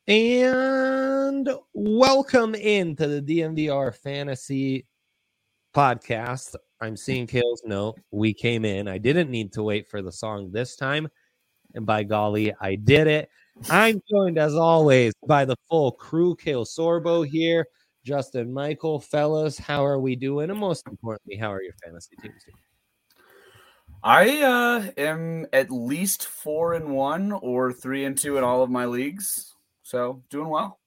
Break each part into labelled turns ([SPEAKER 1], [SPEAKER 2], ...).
[SPEAKER 1] And welcome into the DMVR Fantasy Podcast. I'm seeing Kale's note. We came in. I didn't need to wait for the song this time. And by golly, I did it. I'm joined, as always, by the full crew. Kale Sorbo here. Justin Michael. Fellas, how are we doing? And most importantly, how are your fantasy teams doing?
[SPEAKER 2] I am at least 4-1 or 3-2 in all of my leagues. So doing well.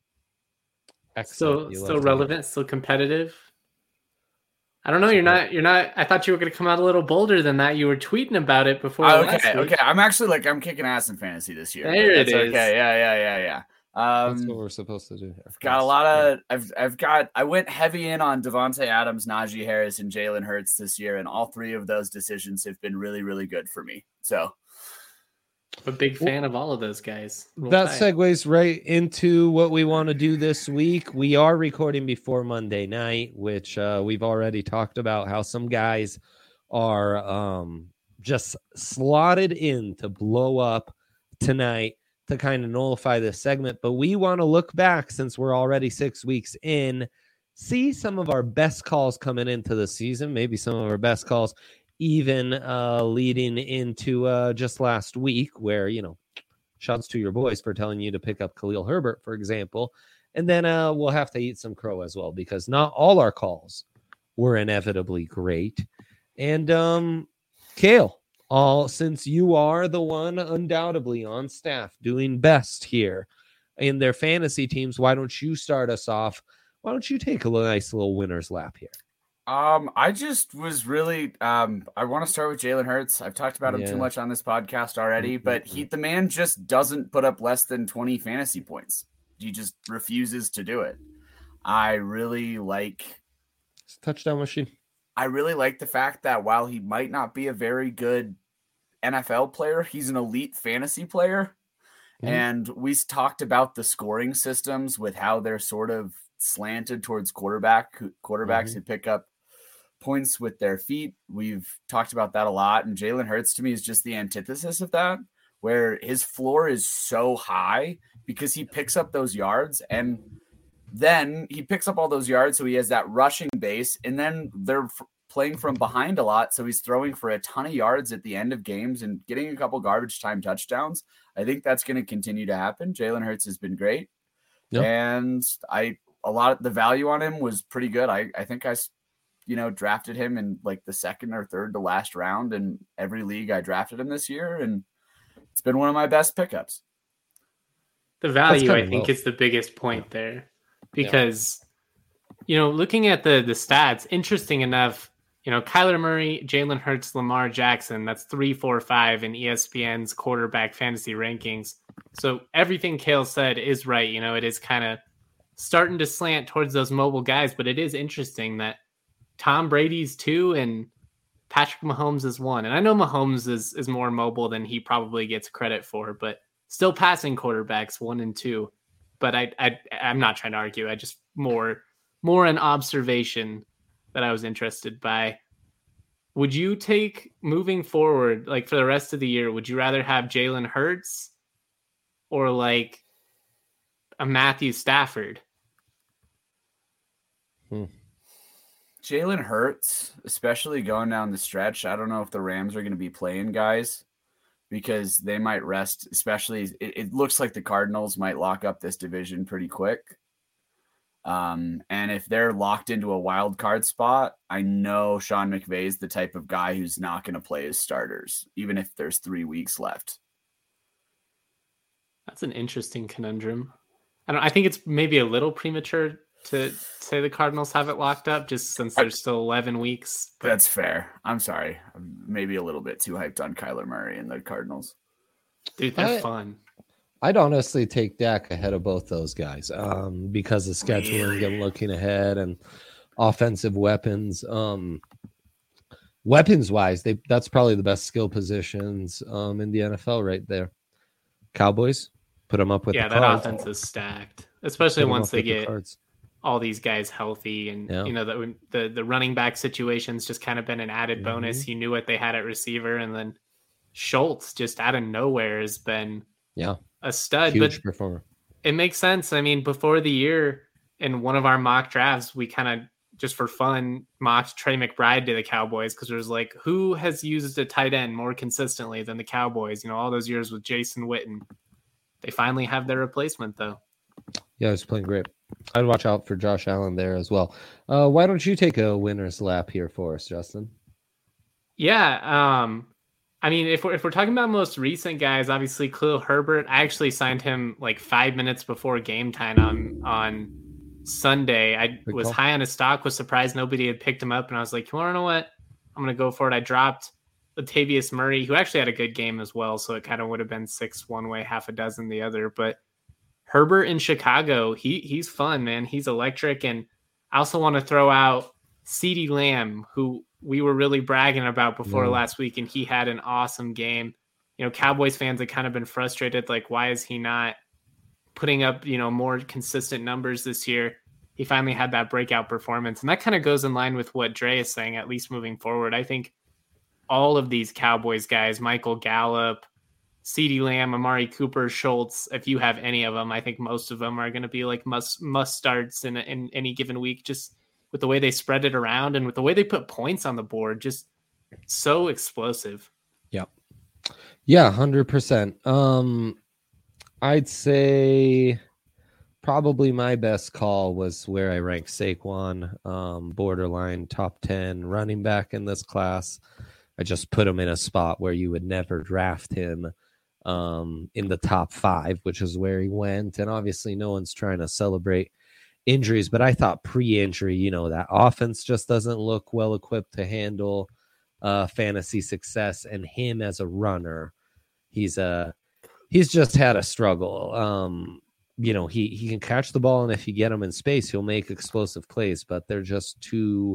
[SPEAKER 1] Excellent.
[SPEAKER 3] Still relevant, still competitive. I don't know. You're not. I thought you were going to come out a little bolder than that. You were tweeting about it before.
[SPEAKER 2] Okay. I'm actually I'm kicking ass in fantasy this year.
[SPEAKER 3] There it is.
[SPEAKER 2] Okay. Yeah.
[SPEAKER 1] That's what we're supposed to do here.
[SPEAKER 2] I've got a lot of. I went heavy in on Devontae Adams, Najee Harris, and Jalen Hurts this year, and all three of those decisions have been really, really good for me. So.
[SPEAKER 3] I'm a big fan of all of those guys.
[SPEAKER 1] That segues right into what we want to do this week. We are recording before Monday night, which we've already talked about how some guys are just slotted in to blow up tonight to kind of nullify this segment. But we want to look back since we're already 6 weeks in, see some of our best calls coming into the season, maybe some of our best calls even leading into just last week where, shouts to your boys for telling you to pick up Khalil Herbert, for example. And then we'll have to eat some crow as well, because not all our calls were inevitably great. And Kale, since you are the one undoubtedly on staff doing best here in their fantasy teams, why don't you start us off? Why don't you take a nice little winner's lap here?
[SPEAKER 2] I just was really I want to start with Jalen Hurts. I've talked about him too much on this podcast already, but the man just doesn't put up less than 20 fantasy points. He just refuses to do it. I really like
[SPEAKER 1] touchdown machine.
[SPEAKER 2] I really like the fact that while he might not be a very good NFL player, he's an elite fantasy player. Mm-hmm. And we talked about the scoring systems with how they're sort of slanted towards quarterbacks who pick up points with their feet. We've talked about that a lot, and Jalen Hurts to me is just the antithesis of that, where his floor is so high because he picks up those yards, and then he picks up all those yards, so he has that rushing base, and then they're playing from behind a lot, so he's throwing for a ton of yards at the end of games and getting a couple garbage time touchdowns. I think that's going to continue to happen. Jalen Hurts has been great, and the value on him was pretty good. I think I drafted him in like the second or third to last round in every league I drafted him this year. And it's been one of my best pickups.
[SPEAKER 3] The value, I think, is the biggest point there because, looking at the stats, interesting enough, Kyler Murray, Jalen Hurts, Lamar Jackson, that's 3, 4, 5 in ESPN's quarterback fantasy rankings. So everything Kale said is right. It is kind of starting to slant towards those mobile guys, but it is interesting that Tom Brady's 2 and Patrick Mahomes is 1. And I know Mahomes is more mobile than he probably gets credit for, but still passing quarterbacks 1 and 2. But I'm not trying to argue. I just more an observation that I was interested by. Would you take moving forward, like for the rest of the year, would you rather have Jalen Hurts or like a Matthew Stafford?
[SPEAKER 2] Jalen Hurts, especially going down the stretch. I don't know if the Rams are going to be playing guys because they might rest, especially it looks like the Cardinals might lock up this division pretty quick. And if they're locked into a wild card spot, I know Sean McVay is the type of guy who's not going to play his starters, even if there's 3 weeks left.
[SPEAKER 3] That's an interesting conundrum. I think it's maybe a little premature to say the Cardinals have it locked up just since there's still 11 weeks.
[SPEAKER 2] But that's fair. I'm sorry. I'm maybe a little bit too hyped on Kyler Murray and the Cardinals.
[SPEAKER 3] Dude, they're fun.
[SPEAKER 1] I'd honestly take Dak ahead of both those guys because of scheduling and looking ahead and offensive weapons. Weapons-wise, that's probably the best skill positions in the NFL right there. Cowboys, put them up with the
[SPEAKER 3] that
[SPEAKER 1] Cards.
[SPEAKER 3] Offense is stacked, especially once they get all these guys healthy. And, the running back situation's just kind of been an added bonus. You knew what they had at receiver. And then Schultz just out of nowhere has been a stud.
[SPEAKER 1] Huge performer.
[SPEAKER 3] It makes sense. I mean, before the year, in one of our mock drafts, we kind of just for fun mocked Trey McBride to the Cowboys because it was like, who has used a tight end more consistently than the Cowboys? All those years with Jason Witten. They finally have their replacement, though.
[SPEAKER 1] Yeah, it's playing great. I'd watch out for Josh Allen there as well. Why don't you take a winner's lap here for us, Justin?
[SPEAKER 3] Yeah. I mean, if we're talking about most recent guys, obviously Khalil Herbert. I actually signed him like 5 minutes before game time on Sunday. I was high on his stock, was surprised nobody had picked him up, and I was like, you want to know what? I'm going to go for it. I dropped Latavius Murray, who actually had a good game as well, so it kind of would have been 6 one way, half a dozen the other. But Herbert in Chicago, he's fun, man. He's electric. And I also want to throw out CeeDee Lamb, who we were really bragging about before last week, and he had an awesome game. Cowboys fans have kind of been frustrated, like, why is he not putting up, more consistent numbers this year? He finally had that breakout performance, and that kind of goes in line with what Dre is saying, at least moving forward. I think all of these Cowboys guys, Michael Gallup, CeeDee Lamb, Amari Cooper, Schultz, if you have any of them, I think most of them are going to be like must starts in any given week, just with the way they spread it around and with the way they put points on the board, just so explosive.
[SPEAKER 1] Yep. Yeah, 100%. I'd say probably my best call was where I ranked Saquon, borderline top 10 running back in this class. I just put him in a spot where you would never draft him in the top 5, which is where he went. And obviously no one's trying to celebrate injuries, but I thought pre-injury, that offense just doesn't look well equipped to handle fantasy success, and him as a runner, he's just had a struggle. He can catch the ball, and if you get him in space, he'll make explosive plays, but they're just too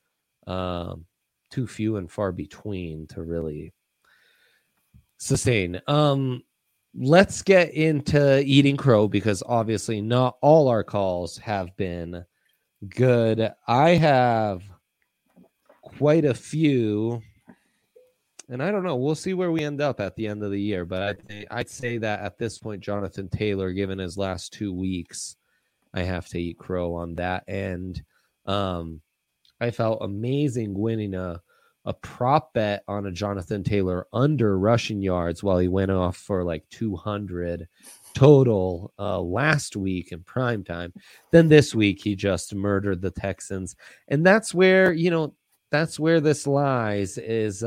[SPEAKER 1] few and far between to really sustain. Let's get into eating crow, because obviously not all our calls have been good. I have quite a few, and I don't know. We'll see where we end up at the end of the year, but I'd say that at this point, Jonathan Taylor, given his last 2 weeks, I have to eat crow on that. And I felt amazing winning a prop bet on a Jonathan Taylor under rushing yards while he went off for like 200 total last week in prime time. Then this week he just murdered the Texans, and that's where this lies is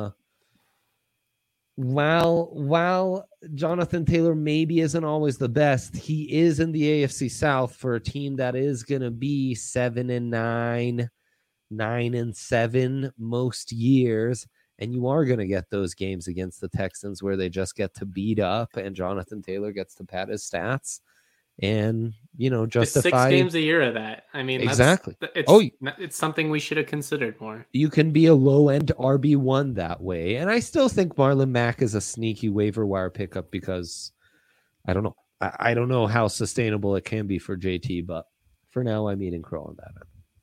[SPEAKER 1] while Jonathan Taylor maybe isn't always the best, he is in the AFC South for a team that is going to be 7-9, 9-7 most years, and you are going to get those games against the Texans where they just get to beat up and Jonathan Taylor gets to pad his stats and justify
[SPEAKER 3] 6 games a year of that. I mean,
[SPEAKER 1] exactly.
[SPEAKER 3] It's something we should have considered more.
[SPEAKER 1] You can be a low end RB1 that way, and I still think Marlon Mack is a sneaky waiver wire pickup because I don't know. I don't know how sustainable it can be for JT, but for now I'm eating crow on that end.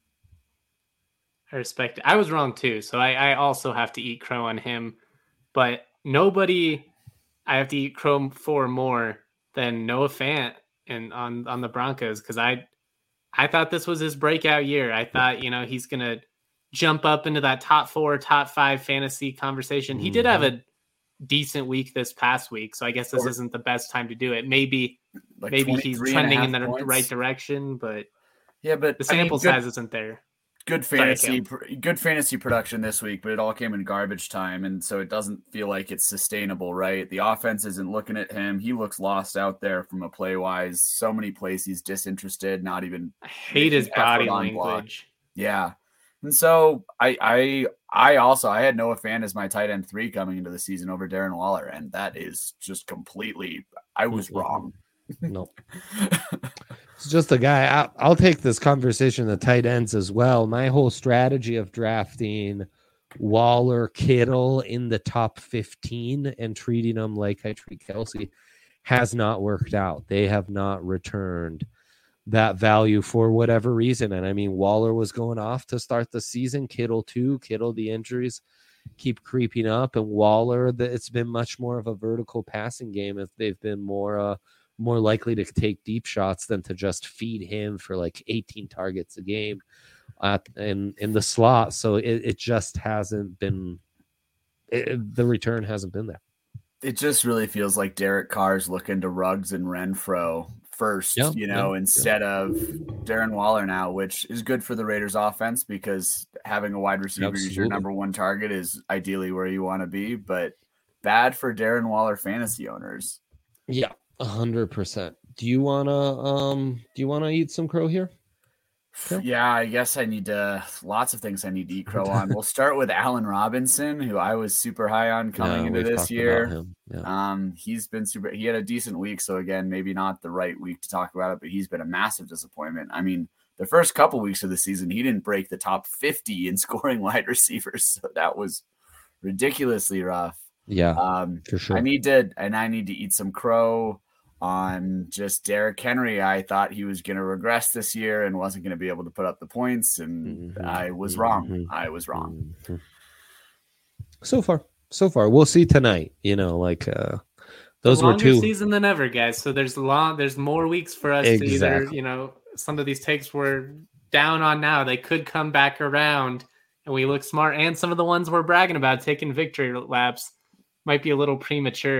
[SPEAKER 3] I respect it. I was wrong too, so I also have to eat crow on him. But nobody I have to eat crow for more than Noah Fant and on the Broncos, because I thought this was his breakout year. I thought he's gonna jump up into that top 4, top 5 fantasy conversation. He did have a decent week this past week, so I guess this isn't the best time to do it. Maybe he's trending in the right direction, but the sample size isn't there.
[SPEAKER 2] Good fantasy production this week, but it all came in garbage time, and so it doesn't feel like it's sustainable, right? The offense isn't looking at him. He looks lost out there from a play-wise. So many plays he's disinterested, not even.
[SPEAKER 3] I hate his body language.
[SPEAKER 2] Yeah. And so I had Noah Fant as my tight end 3 coming into the season over Darren Waller, and that is just completely, I was wrong.
[SPEAKER 1] No. It's just a guy. I'll take this conversation to tight ends as well. My whole strategy of drafting Waller, Kittle in the top 15 and treating them like I treat Kelsey has not worked out. They have not returned that value for whatever reason. And I mean, Waller was going off to start the season. Kittle too. Kittle, the injuries keep creeping up. And Waller, it's been much more of a vertical passing game if they've been more more likely to take deep shots than to just feed him for like 18 targets a game in the slot. So it just hasn't been, the return hasn't been there.
[SPEAKER 2] It just really feels like Derek Carr's looking to Ruggs and Renfrow first, instead of Darren Waller now, which is good for the Raiders offense because having a wide receiver as your number one target is ideally where you want to be, but bad for Darren Waller fantasy owners.
[SPEAKER 1] Yeah, 100%. Do you wanna eat some crow here?
[SPEAKER 2] Yeah, I guess I need lots of things I need to eat crow on. We'll start with Allen Robinson, who I was super high on coming into this year. Yeah. He's been he had a decent week. So again, maybe not the right week to talk about it, but he's been a massive disappointment. I mean, the first couple weeks of the season, he didn't break the top 50 in scoring wide receivers. So that was ridiculously rough.
[SPEAKER 1] Yeah, for sure.
[SPEAKER 2] I need to eat some crow on just Derrick Henry. I thought he was going to regress this year and wasn't going to be able to put up the points, and I was wrong.
[SPEAKER 1] So far, we'll see tonight. Those were two
[SPEAKER 3] season than ever, guys. So there's more weeks for us to either, some of these takes we're down on now, they could come back around and we look smart, and some of the ones we're bragging about taking victory laps might be a little premature.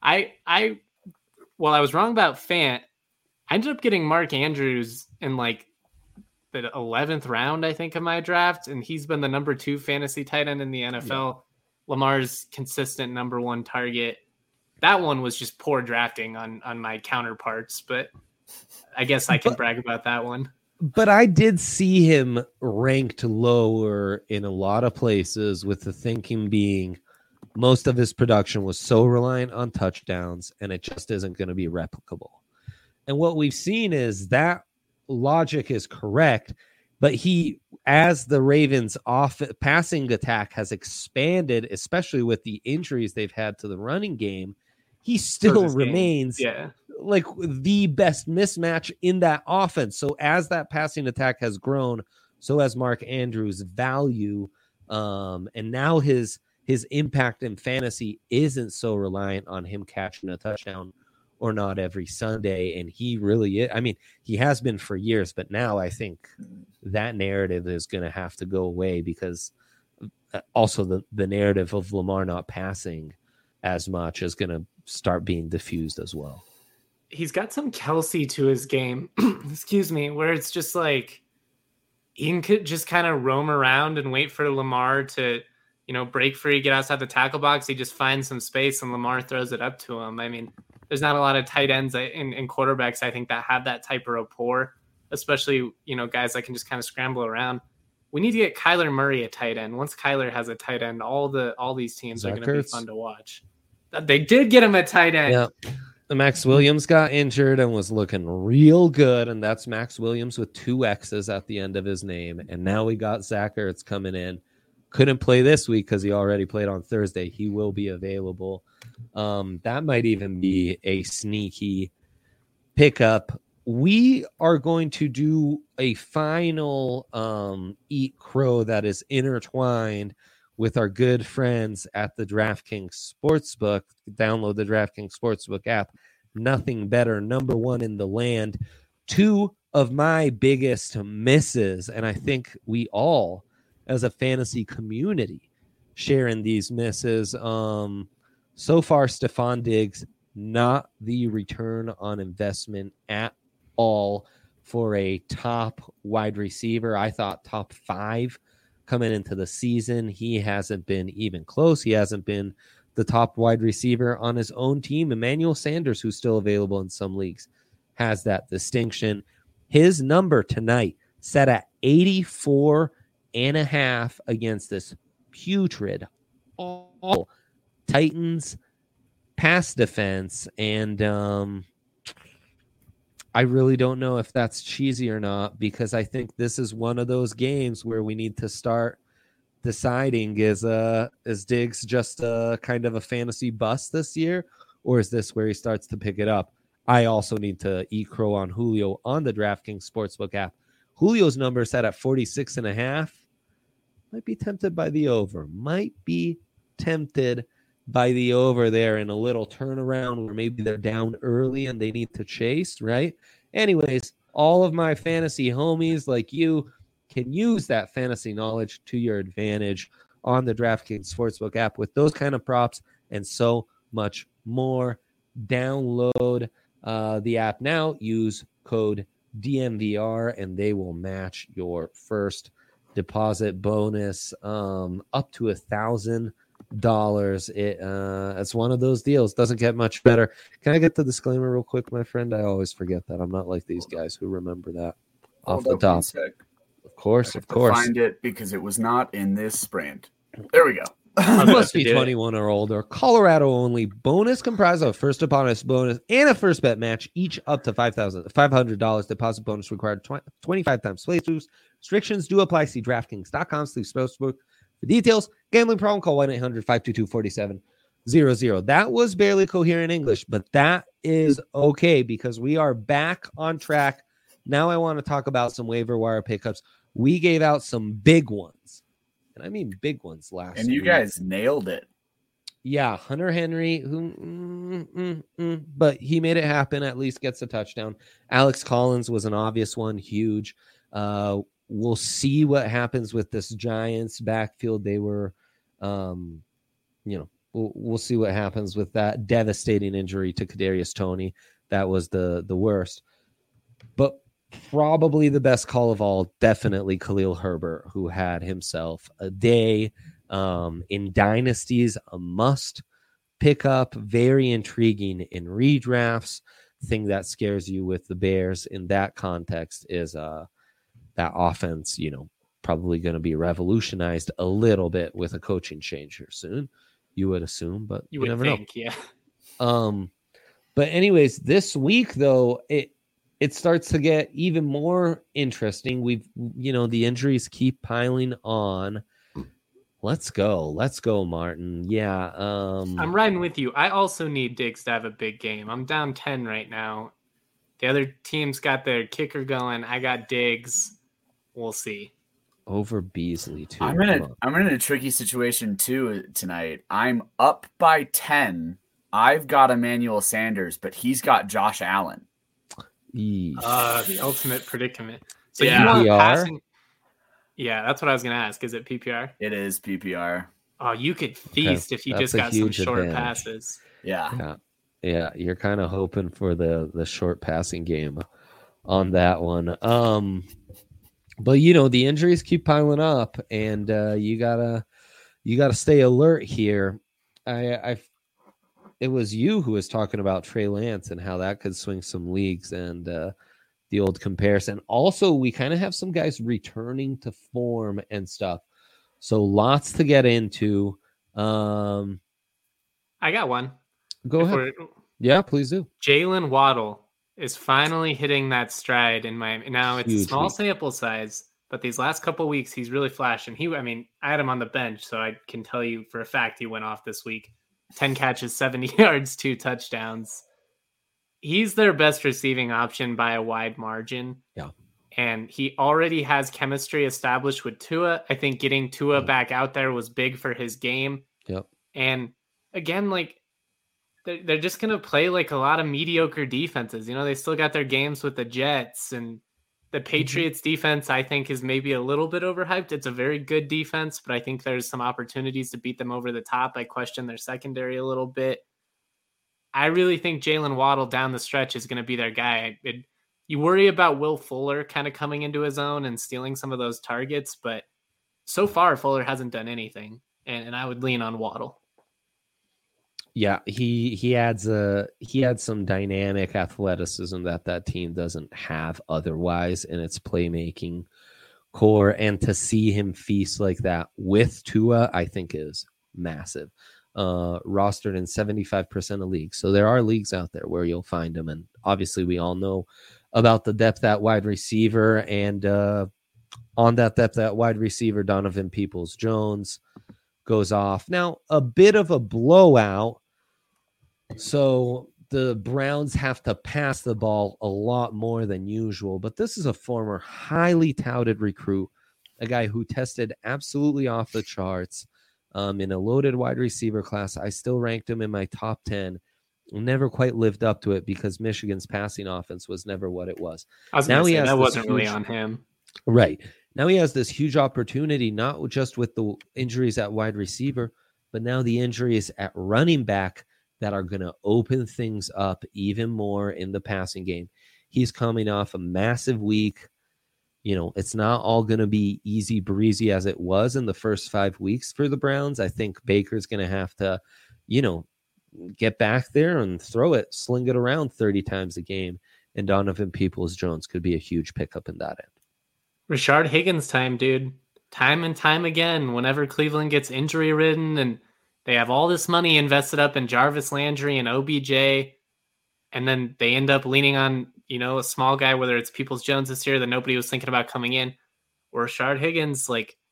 [SPEAKER 3] Well, I was wrong about Fant. I ended up getting Mark Andrews in like the 11th round, I think, of my draft, and he's been the number 2 fantasy tight end in the NFL. Yeah. Lamar's consistent number 1 target. That one was just poor drafting on my counterparts, but I guess I can brag about that one.
[SPEAKER 1] But I did see him ranked lower in a lot of places, with the thinking being most of his production was so reliant on touchdowns, and it just isn't going to be replicable. And what we've seen is that logic is correct, but as the Ravens' passing attack has expanded, especially with the injuries they've had to the running game, he still remains like the best mismatch in that offense. So as that passing attack has grown, so has Mark Andrews' value, and now his impact in fantasy isn't so reliant on him catching a touchdown or not every Sunday. And he really is. I mean, he has been for years, but now I think that narrative is going to have to go away, because also the narrative of Lamar not passing as much is going to start being diffused as well.
[SPEAKER 3] He's got some Kelsey to his game, excuse me, where it's just like he can just kind of roam around and wait for Lamar to, break free, get outside the tackle box. He just finds some space and Lamar throws it up to him. I mean, there's not a lot of tight ends in quarterbacks, I think, that have that type of rapport, especially, guys that can just kind of scramble around. We need to get Kyler Murray a tight end. Once Kyler has a tight end, all these teams are going to be fun to watch. They did get him a tight end.
[SPEAKER 1] Yeah. Max Williams got injured and was looking real good, and that's Max Williams with 2 X's at the end of his name. And now we got Zach Ertz coming in. Couldn't play this week because he already played on Thursday. He will be available. That might even be a sneaky pickup. We are going to do a final Eat Crow that is intertwined with our good friends at the DraftKings Sportsbook. Download the DraftKings Sportsbook app. Nothing better. Number 1 in the land. 2 of my biggest misses, and I think we all, as a fantasy community, sharing these misses. So far, Stephon Diggs, not the return on investment at all for a top wide receiver. I thought top 5 coming into the season. He hasn't been even close. He hasn't been the top wide receiver on his own team. Emmanuel Sanders, who's still available in some leagues, has that distinction. His number tonight set at 84.5 against this putrid all Titans pass defense. And I really don't know if that's cheesy or not, because I think this is one of those games where we need to start deciding, is Diggs just a kind of a fantasy bust this year, or is this where he starts to pick it up? I also need to eat crow on Julio on the DraftKings Sportsbook app. Julio's number set at 46.5. Might be tempted by the over. Might be tempted by the over there in a little turnaround where maybe they're down early and they need to chase, right? Anyways, all of my fantasy homies like you can use that fantasy knowledge to your advantage on the DraftKings Sportsbook app with those kind of props and so much more. Download the app now. Use code DMVR and they will match your first deposit bonus up to $1,000. It's one of those deals. Doesn't get much better. Can I get the disclaimer real quick, my friend? I always forget that. I'm not like these guys who remember that off the top. Of course.
[SPEAKER 2] Find it because it was not in this brand. There we go.
[SPEAKER 1] Must be 21 or older. Colorado only. Bonus comprised of a first deposit bonus and a first bet match, each up to $500. Deposit bonus required 25 times playthroughs. Restrictions do apply. See DraftKings.com/sportsbook for details. Gambling problem? Call 1-800-522-4700. That was barely coherent English, but that is okay because we are back on track. Now I want to talk about some waiver wire pickups. We gave out some big ones. And I mean big ones last
[SPEAKER 2] And you guys nailed it.
[SPEAKER 1] Yeah, Hunter Henry, but he made it happen, at least gets a touchdown. Alex Collins was an obvious one, huge. We'll see what happens with this Giants backfield. They were, we'll see what happens with that devastating injury to Kadarius Toney. That was the worst. But probably the best call of all, definitely Khalil Herbert, who had himself a day. In dynasties, a must pick up, very intriguing in redrafts. Thing that scares you with the Bears in that context is that offense, probably going to be revolutionized a little bit with a coaching change here soon, you would assume, but you never know.
[SPEAKER 3] Yeah.
[SPEAKER 1] But anyways, this week though, it starts to get even more interesting. The injuries keep piling on. Let's go, Martin. Yeah.
[SPEAKER 3] I'm riding with you. I also need Diggs to have a big game. I'm down 10 right now. The other team's got their kicker going. I got Diggs. We'll see.
[SPEAKER 1] Over Beasley too.
[SPEAKER 2] I'm in a tricky situation too tonight. I'm up by 10. I've got Emmanuel Sanders, but he's got Josh Allen.
[SPEAKER 3] The ultimate predicament. So
[SPEAKER 1] yeah.
[SPEAKER 3] You want passing? Yeah, that's what I was going to ask. Is it PPR?
[SPEAKER 2] It is PPR.
[SPEAKER 3] Oh, you could feast if you just got some short passes.
[SPEAKER 2] Yeah.
[SPEAKER 1] You're kind of hoping for the short passing game on that one. But the injuries keep piling up, and you gotta stay alert here. It was you who was talking about Trey Lance and how that could swing some leagues and the old comparison. Also, we kind of have some guys returning to form and stuff. So lots to get into.
[SPEAKER 3] I got one.
[SPEAKER 1] Go ahead. Yeah, please do.
[SPEAKER 3] Jalen Waddle is finally hitting that stride in Miami. Now, it's a small sample size, but these last couple of weeks, he's really flashing. I had him on the bench, so I can tell you for a fact he went off this week. 10 catches, 70 yards, 2 touchdowns. He's their best receiving option by a wide margin.
[SPEAKER 1] Yeah.
[SPEAKER 3] And he already has chemistry established with Tua. I think getting Tua back out there was big for his game.
[SPEAKER 1] Yep.
[SPEAKER 3] And again, they're just going to play like a lot of mediocre defenses. They still got their games with the Jets, and the Patriots defense, I think, is maybe a little bit overhyped. It's a very good defense, but I think there's some opportunities to beat them over the top. I question their secondary a little bit. I really think Jalen Waddle down the stretch is going to be their guy. You worry about Will Fuller kind of coming into his own and stealing some of those targets, but so far Fuller hasn't done anything, and I would lean on Waddle.
[SPEAKER 1] Yeah, he adds some dynamic athleticism that team doesn't have otherwise in its playmaking core, and to see him feast like that with Tua, I think is massive. Rostered in 75% of leagues, so there are leagues out there where you'll find him, and obviously we all know about the depth at wide receiver, and on that depth at wide receiver, Donovan Peoples-Jones goes off. Now, a bit of a blowout. So the Browns have to pass the ball a lot more than usual, but this is a former highly touted recruit, a guy who tested absolutely off the charts. in a loaded wide receiver class. I still ranked him in my top 10. Never quite lived up to it because Michigan's passing offense was never what it was.
[SPEAKER 3] I was going to say, that wasn't really on him.
[SPEAKER 1] Right. Now he has this huge opportunity, not just with the injuries at wide receiver, but now the injuries at running back that are going to open things up even more in the passing game. He's coming off a massive week. It's not all going to be easy breezy as it was in the first 5 weeks for the Browns. I think Baker's going to have to, get back there and sling it around 30 times a game. And Donovan Peoples-Jones could be a huge pickup in that end.
[SPEAKER 3] Rashard Higgins time, dude. Time and time again, whenever Cleveland gets injury ridden and they have all this money invested up in Jarvis Landry and OBJ, and then they end up leaning on, a small guy, whether it's Peoples-Jones this year that nobody was thinking about coming in, or Rashard Higgins,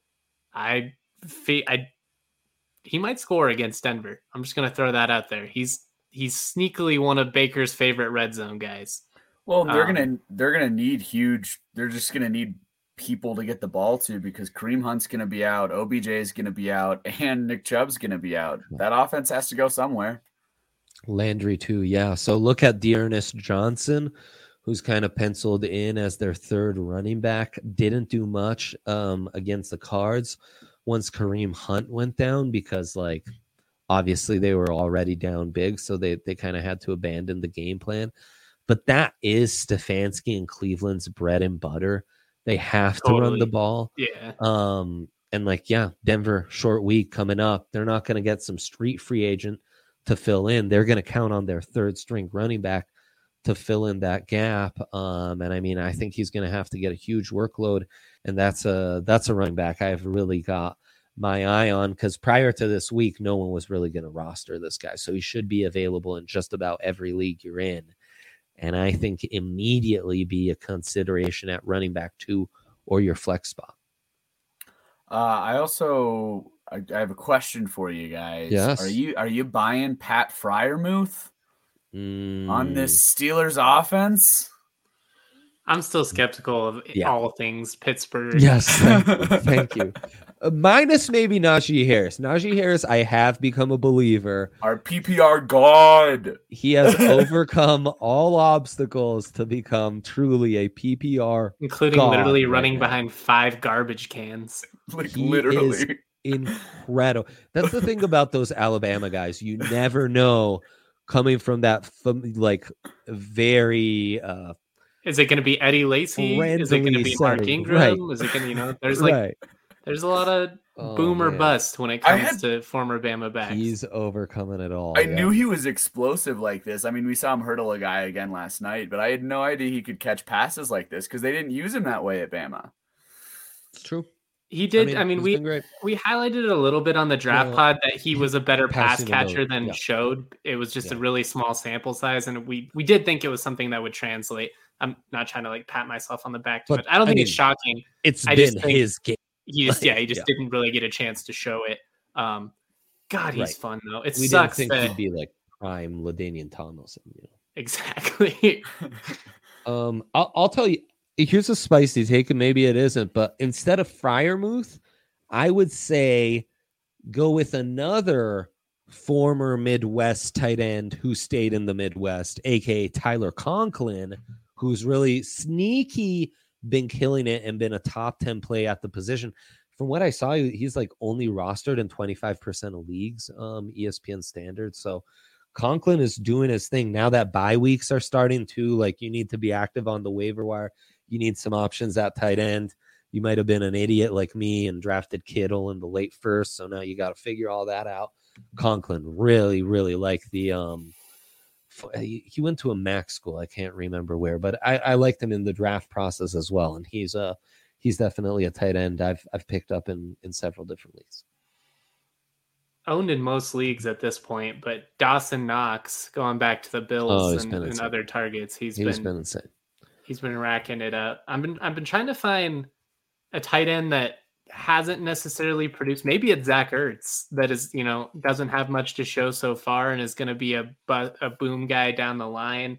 [SPEAKER 3] he might score against Denver. I'm just going to throw that out there. He's sneakily one of Baker's favorite red zone guys.
[SPEAKER 2] Well, they're gonna need They're just gonna need people to get the ball to, because Kareem Hunt's going to be out, OBJ is going to be out, and Nick Chubb's going to be out. That offense has to go somewhere.
[SPEAKER 1] Landry too, yeah. So look at Dearness Johnson, who's kind of penciled in as their third running back. Didn't do much against the Cards once Kareem Hunt went down, because obviously they were already down big, so they kind of had to abandon the game plan. But that is Stefanski and Cleveland's bread and butter. They have to run the ball.
[SPEAKER 3] Yeah.
[SPEAKER 1] Denver, short week coming up. They're not going to get some street free agent to fill in. They're going to count on their third string running back to fill in that gap. I think he's going to have to get a huge workload, and that's a running back I've really got my eye on, because prior to this week, no one was really going to roster this guy. So he should be available in just about every league you're in. And I think immediately be a consideration at running back 2 or your flex spot.
[SPEAKER 2] I have a question for you guys.
[SPEAKER 1] Yes.
[SPEAKER 2] Are you buying Pat Freiermuth on this Steelers offense?
[SPEAKER 3] I'm still skeptical of all things Pittsburgh.
[SPEAKER 1] Yes, thank you. Minus maybe Najee Harris. Najee Harris, I have become a believer.
[SPEAKER 2] Our PPR god.
[SPEAKER 1] He has overcome all obstacles to become truly a PPR,
[SPEAKER 3] including literally running behind 5 garbage cans.
[SPEAKER 2] Literally.
[SPEAKER 1] Is incredible. That's the thing about those Alabama guys. You never know, coming from that very
[SPEAKER 3] is it going to be Eddie Lacy? Is it going to be Mark Ingram?
[SPEAKER 1] Right.
[SPEAKER 3] Is it going to, there's a lot of boom or bust when it comes to former Bama backs.
[SPEAKER 1] He's overcoming it all.
[SPEAKER 2] I knew he was explosive like this. I mean, we saw him hurdle a guy again last night, but I had no idea he could catch passes like this, because they didn't use him that way at Bama.
[SPEAKER 1] It's true.
[SPEAKER 3] He did. We highlighted it a little bit on the draft pod that he was a better pass catcher than showed. It was just a really small sample size, and we did think it was something that would translate. I'm not trying to pat myself on the back, but I don't think it's shocking.
[SPEAKER 1] It's been his game.
[SPEAKER 3] He just didn't really get a chance to show it. God, he's fun though.
[SPEAKER 1] We
[SPEAKER 3] sucks
[SPEAKER 1] didn't think
[SPEAKER 3] that
[SPEAKER 1] he'd be like prime LaDainian Tomlinson.
[SPEAKER 3] Exactly.
[SPEAKER 1] I'll tell you. Here's a spicy take, and maybe it isn't, but instead of Freiermuth, I would say go with another former Midwest tight end who stayed in the Midwest, aka Tyler Conklin, who's really sneaky, been killing it and been a top 10 play at the position. From what I saw, he's only rostered in 25% of leagues, ESPN standards. So Conklin is doing his thing. Now that bye weeks are starting to, you need to be active on the waiver wire. You need some options at tight end. You might have been an idiot like me and drafted Kittle in the late first, so now you got to figure all that out. Conklin really, really like the he went to a MAC school. I can't remember where, but I liked him in the draft process as well, and he's definitely a tight end I've picked up in several different leagues.
[SPEAKER 3] Owned in most leagues at this point, but Dawson Knox, going back to the Bills and other targets, he's been
[SPEAKER 1] insane.
[SPEAKER 3] He's been racking it up. I've been trying to find a tight end that hasn't necessarily produced. Maybe it's Zach Ertz that is, doesn't have much to show so far and is going to be a boom guy down the line.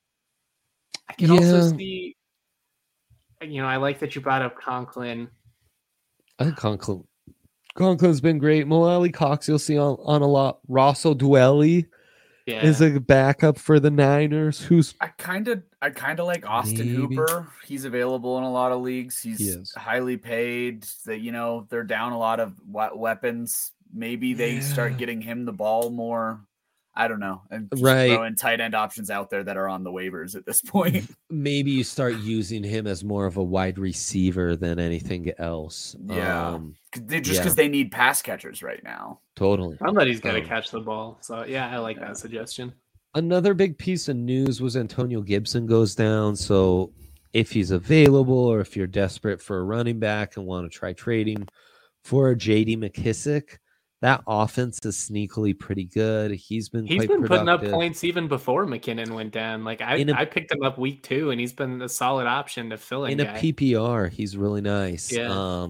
[SPEAKER 3] I can also see, I like that you brought up Conklin.
[SPEAKER 1] I think Conklin Conklin's been great. Mo Ali Cox, you'll see on a lot. Rosso Duelli is a backup for the Niners.
[SPEAKER 2] I kind of like Austin Hooper. He's available in a lot of leagues. He's highly paid. That they're down a lot of weapons. Maybe they start getting him the ball more. I don't know. And just throwing tight end options out there that are on the waivers at this point.
[SPEAKER 1] Maybe you start using him as more of a wide receiver than anything else.
[SPEAKER 2] Yeah. Because they need pass catchers right now.
[SPEAKER 1] Totally.
[SPEAKER 3] Somebody's got to catch the ball. So, I like that suggestion.
[SPEAKER 1] Another big piece of news was Antonio Gibson goes down. So if he's available or if you're desperate for a running back and want to try trading for a J.D. McKissic, that offense is sneakily pretty good. He's been
[SPEAKER 3] putting up points even before McKinnon went down. Like I picked him up week 2, and he's been a solid option to fill in
[SPEAKER 1] a PPR. He's really nice.
[SPEAKER 3] Yeah.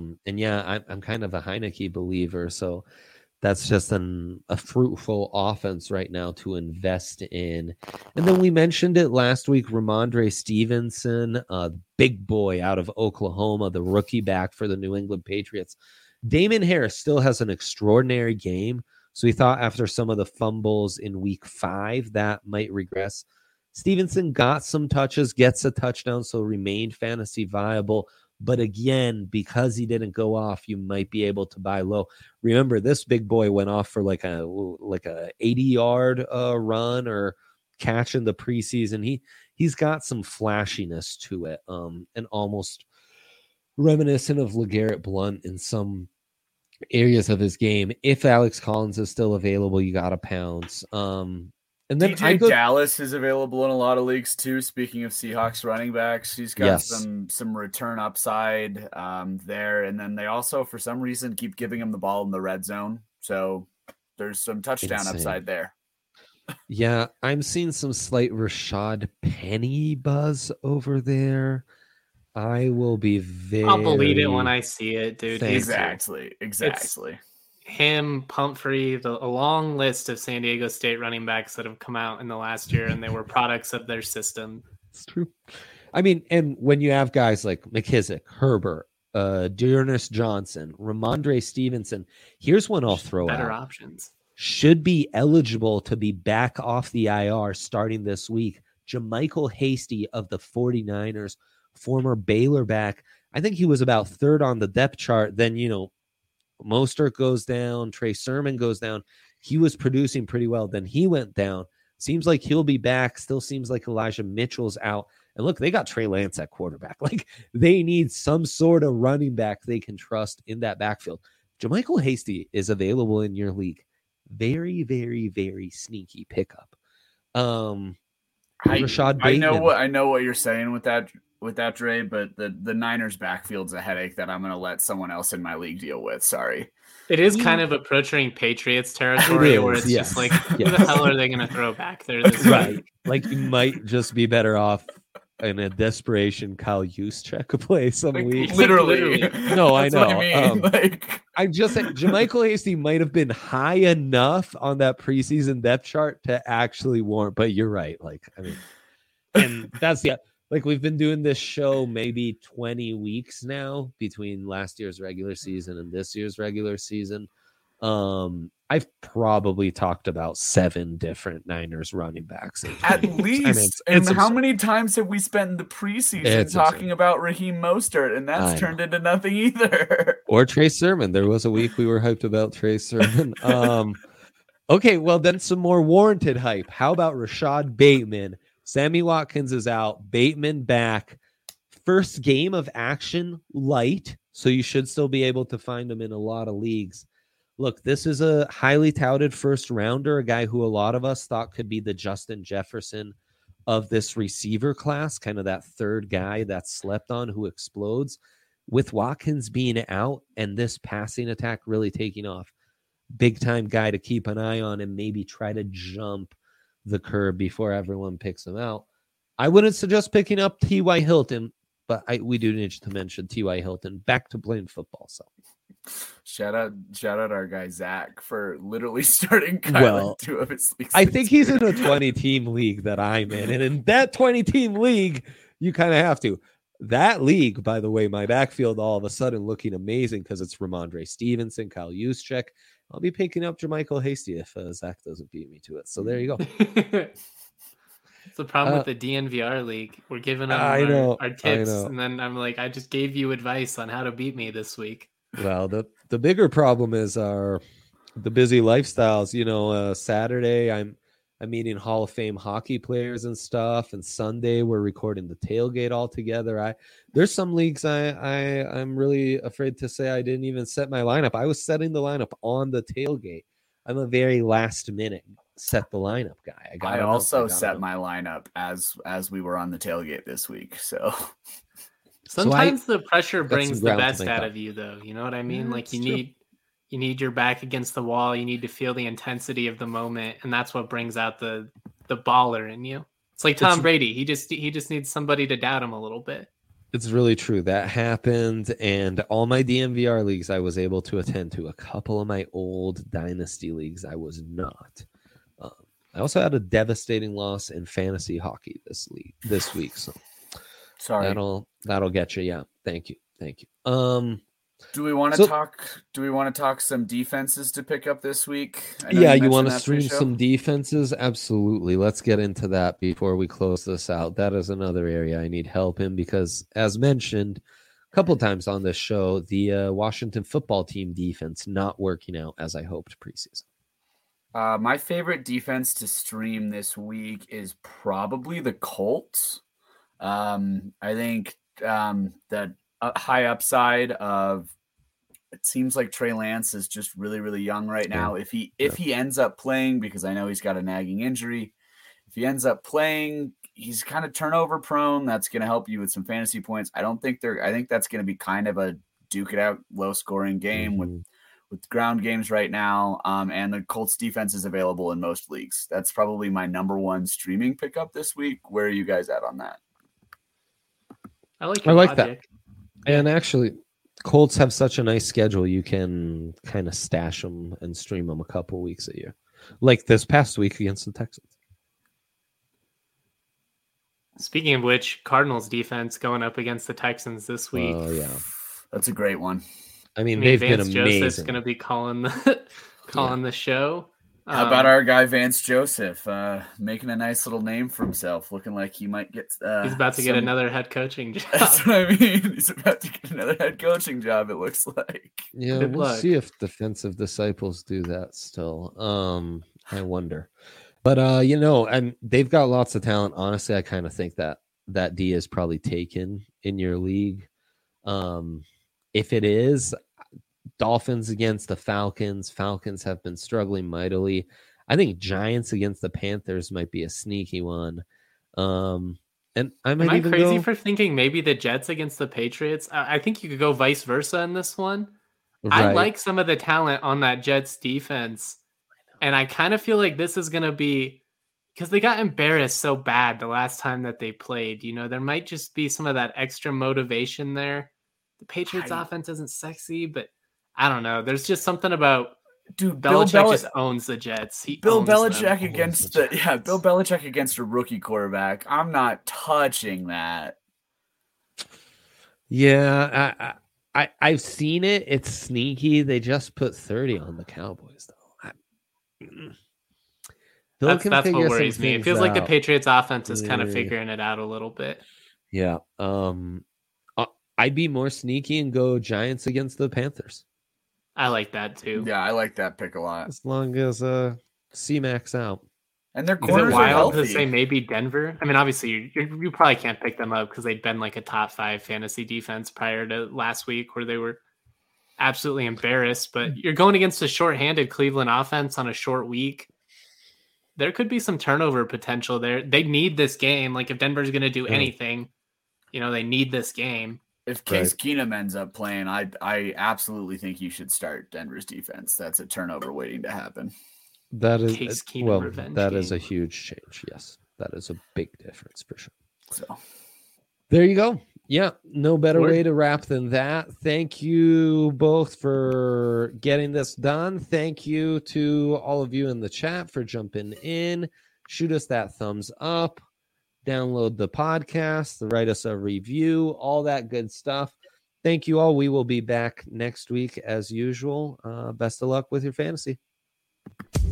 [SPEAKER 1] I'm kind of a Heineke believer, so that's just a fruitful offense right now to invest in. And then we mentioned it last week, Ramondre Stevenson, big boy out of Oklahoma, the rookie back for the New England Patriots. Damon Harris still has an extraordinary game, so we thought after some of the fumbles in week 5 that might regress. Stevenson got some touches, gets a touchdown, so remained fantasy viable. But again, because he didn't go off, you might be able to buy low. Remember, this big boy went off for like a 80-yard run or catch in the preseason. He's got some flashiness to it, and almost reminiscent of LeGarrette Blount in some areas of his game. If Alex Collins is still available, you got to pounce. And then
[SPEAKER 2] DJ Dallas is available in a lot of leagues too. Speaking of Seahawks running backs, he's got some return upside there. And then they also, for some reason, keep giving him the ball in the red zone. So there's some touchdown upside there.
[SPEAKER 1] Yeah, I'm seeing some slight Rashad Penny buzz over there. I will be
[SPEAKER 3] I'll believe it when I see it, dude.
[SPEAKER 2] Exactly.
[SPEAKER 3] It's him, Pumphrey, a long list of San Diego State running backs that have come out in the last year, and they were products of their system.
[SPEAKER 1] It's true. I mean, and when you have guys like McKissic, Herbert, Dearness Johnson, Ramondre Stevenson, here's one I'll throw out.
[SPEAKER 3] Better options.
[SPEAKER 1] Should be eligible to be back off the IR starting this week. JaMycal Hasty of the 49ers, former Baylor back. I think he was about 3rd on the depth chart. Then, Mostert goes down. Trey Sermon goes down. He was producing pretty well. Then he went down. Seems like he'll be back. Still seems like Elijah Mitchell's out. And look, they got Trey Lance at quarterback. Like, they need some sort of running back they can trust in that backfield. JaMycal Hasty is available in your league. Very, very, very sneaky pickup. Rashad Bateman.
[SPEAKER 2] I know what you're saying with that, Dre, but the Niners backfield's a headache that I'm going to let someone else in my league deal with. Sorry.
[SPEAKER 3] It is kind of approaching Patriots territory where it's just like, who the hell are they going to throw back there this
[SPEAKER 1] week? Like, you might just be better off in a desperation Kyle Juszczyk play some week.
[SPEAKER 2] Literally.
[SPEAKER 1] No, I know.
[SPEAKER 2] I mean.
[SPEAKER 1] I just said JaMycal Hasty might have been high enough on that preseason depth chart to actually warrant, but you're right. And that's we've been doing this show maybe 20 weeks now between last year's regular season and this year's regular season. I've probably talked about 7 different Niners running backs.
[SPEAKER 2] At least. How many times have we spent in the preseason talking about Raheem Mostert, and that's turned into nothing either.
[SPEAKER 1] Or Trey Sermon. There was a week we were hyped about Trey Sermon. Okay, well, then some more warranted hype. How about Rashad Bateman? Sammy Watkins is out. Bateman back. First game of action light, so you should still be able to find him in a lot of leagues. Look, this is a highly touted first rounder, a guy who a lot of us thought could be the Justin Jefferson of this receiver class, kind of that third guy that's slept on who explodes. With Watkins being out and this passing attack really taking off, big time guy to keep an eye on and maybe try to jump the curb before everyone picks him out. I wouldn't suggest picking up T.Y. Hilton, but we do need to mention T.Y. Hilton back to playing football. So
[SPEAKER 2] shout out our guy Zach for literally starting Kyle in 2 of his leagues.
[SPEAKER 1] I think he's in a 20-team league that I'm in, and in that 20-team league, you kind of have to. That league, by the way, my backfield all of a sudden looking amazing because it's Ramondre Stevenson, Kyle Juszczyk. I'll be picking up Jermichael Hasty if Zach doesn't beat me to it. So there you go.
[SPEAKER 3] It's the problem with the DNVR league. We're giving them our tips, and then I'm like, I just gave you advice on how to beat me this week.
[SPEAKER 1] Well, the bigger problem is the busy lifestyles. Saturday I'm meeting Hall of Fame hockey players and stuff, and Sunday we're recording the tailgate all together. There's some leagues I'm really afraid to say I didn't even set my lineup. I was setting the lineup on the tailgate. I'm a very last minute set the lineup guy.
[SPEAKER 2] I also set my lineup as we were on the tailgate this week. So
[SPEAKER 3] sometimes the pressure brings the best out of you, though. You know what I mean? Like you need your back against the wall. You need to feel the intensity of the moment, and that's what brings out the baller in you. It's like Tom Brady. He just needs somebody to doubt him a little bit.
[SPEAKER 1] It's really true. That happened, and all my DNVR leagues I was able to attend to. A couple of my old dynasty leagues I was not. I also had a devastating loss in fantasy hockey this week. So
[SPEAKER 2] sorry,
[SPEAKER 1] that'll get you. Yeah, thank you.
[SPEAKER 2] Do we want to talk some defenses to pick up this week?
[SPEAKER 1] Yeah, you want to stream some defenses? Absolutely. Let's get into that before we close this out. That is another area I need help in because, as mentioned a couple of times on this show, the Washington football team defense not working out as I hoped preseason.
[SPEAKER 2] My favorite defense to stream this week is probably the Colts. I think that high upside of it seems like Trey Lance is just really, really young right now. If he ends up playing, because I know he's got a nagging injury, if he ends up playing, he's kind of turnover prone. That's going to help you with some fantasy points. I think that's going to be kind of a duke it out, low scoring game with ground games right now. And the Colts defense is available in most leagues. That's probably my number one streaming pickup this week. Where are you guys at on that?
[SPEAKER 3] I like
[SPEAKER 1] that. And actually, Colts have such a nice schedule. You can kind of stash them and stream them a couple weeks a year. Like this past week against the Texans.
[SPEAKER 3] Speaking of which, Cardinals defense going up against the Texans this week.
[SPEAKER 1] Oh, yeah.
[SPEAKER 2] That's a great one.
[SPEAKER 1] I mean they've been amazing.
[SPEAKER 3] Joseph's going to be calling the show.
[SPEAKER 2] How about our guy Vance Joseph making a nice little name for himself, looking like he might get.
[SPEAKER 3] He's about to get another head coaching job.
[SPEAKER 2] That's what I mean. He's about to get another head coaching job. It looks like.
[SPEAKER 1] Yeah, we'll see if defensive disciples do that still. I wonder, but and they've got lots of talent. Honestly, I kind of think that D is probably taken in your league. If it is. Dolphins against the Falcons. Falcons have been struggling mightily. I think Giants against the Panthers might be a sneaky one. And am I
[SPEAKER 3] crazy for thinking maybe the Jets against the Patriots? I think you could go vice versa in this one. Right. I like some of the talent on that Jets defense. And I kind of feel like this is going to be because they got embarrassed so bad the last time that they played. There might just be some of that extra motivation there. The Patriots offense isn't sexy, but I don't know. There's just something about Belichick just owns the Jets.
[SPEAKER 2] Bill Belichick against a rookie quarterback. I'm not touching that.
[SPEAKER 1] Yeah, I've seen it. It's sneaky. They just put 30 on the Cowboys, though.
[SPEAKER 3] That's what worries me. It feels like the Patriots offense is kind of figuring it out a little bit.
[SPEAKER 1] Yeah. I'd be more sneaky and go Giants against the Panthers.
[SPEAKER 3] I like that too.
[SPEAKER 2] Yeah, I like that pick a lot.
[SPEAKER 1] As long as C-Max out.
[SPEAKER 2] And their corners are healthy.
[SPEAKER 3] To say maybe Denver. I mean, obviously you probably can't pick them up because they'd been like a top 5 fantasy defense prior to last week where they were absolutely embarrassed. But you're going against a shorthanded Cleveland offense on a short week. There could be some turnover potential there. They need this game. Like if Denver's going to do anything, they need this game.
[SPEAKER 2] If Case Keenum ends up playing, I absolutely think you should start Denver's defense. That's a turnover waiting to happen.
[SPEAKER 1] That is that is a huge change. Yes, that is a big difference for sure.
[SPEAKER 2] So
[SPEAKER 1] there you go. Yeah, no better way to wrap than that. Thank you both for getting this done. Thank you to all of you in the chat for jumping in. Shoot us that thumbs up. download the podcast, write us a review, all that good stuff. Thank you all. We will be back next week as usual. Best of luck with your fantasy.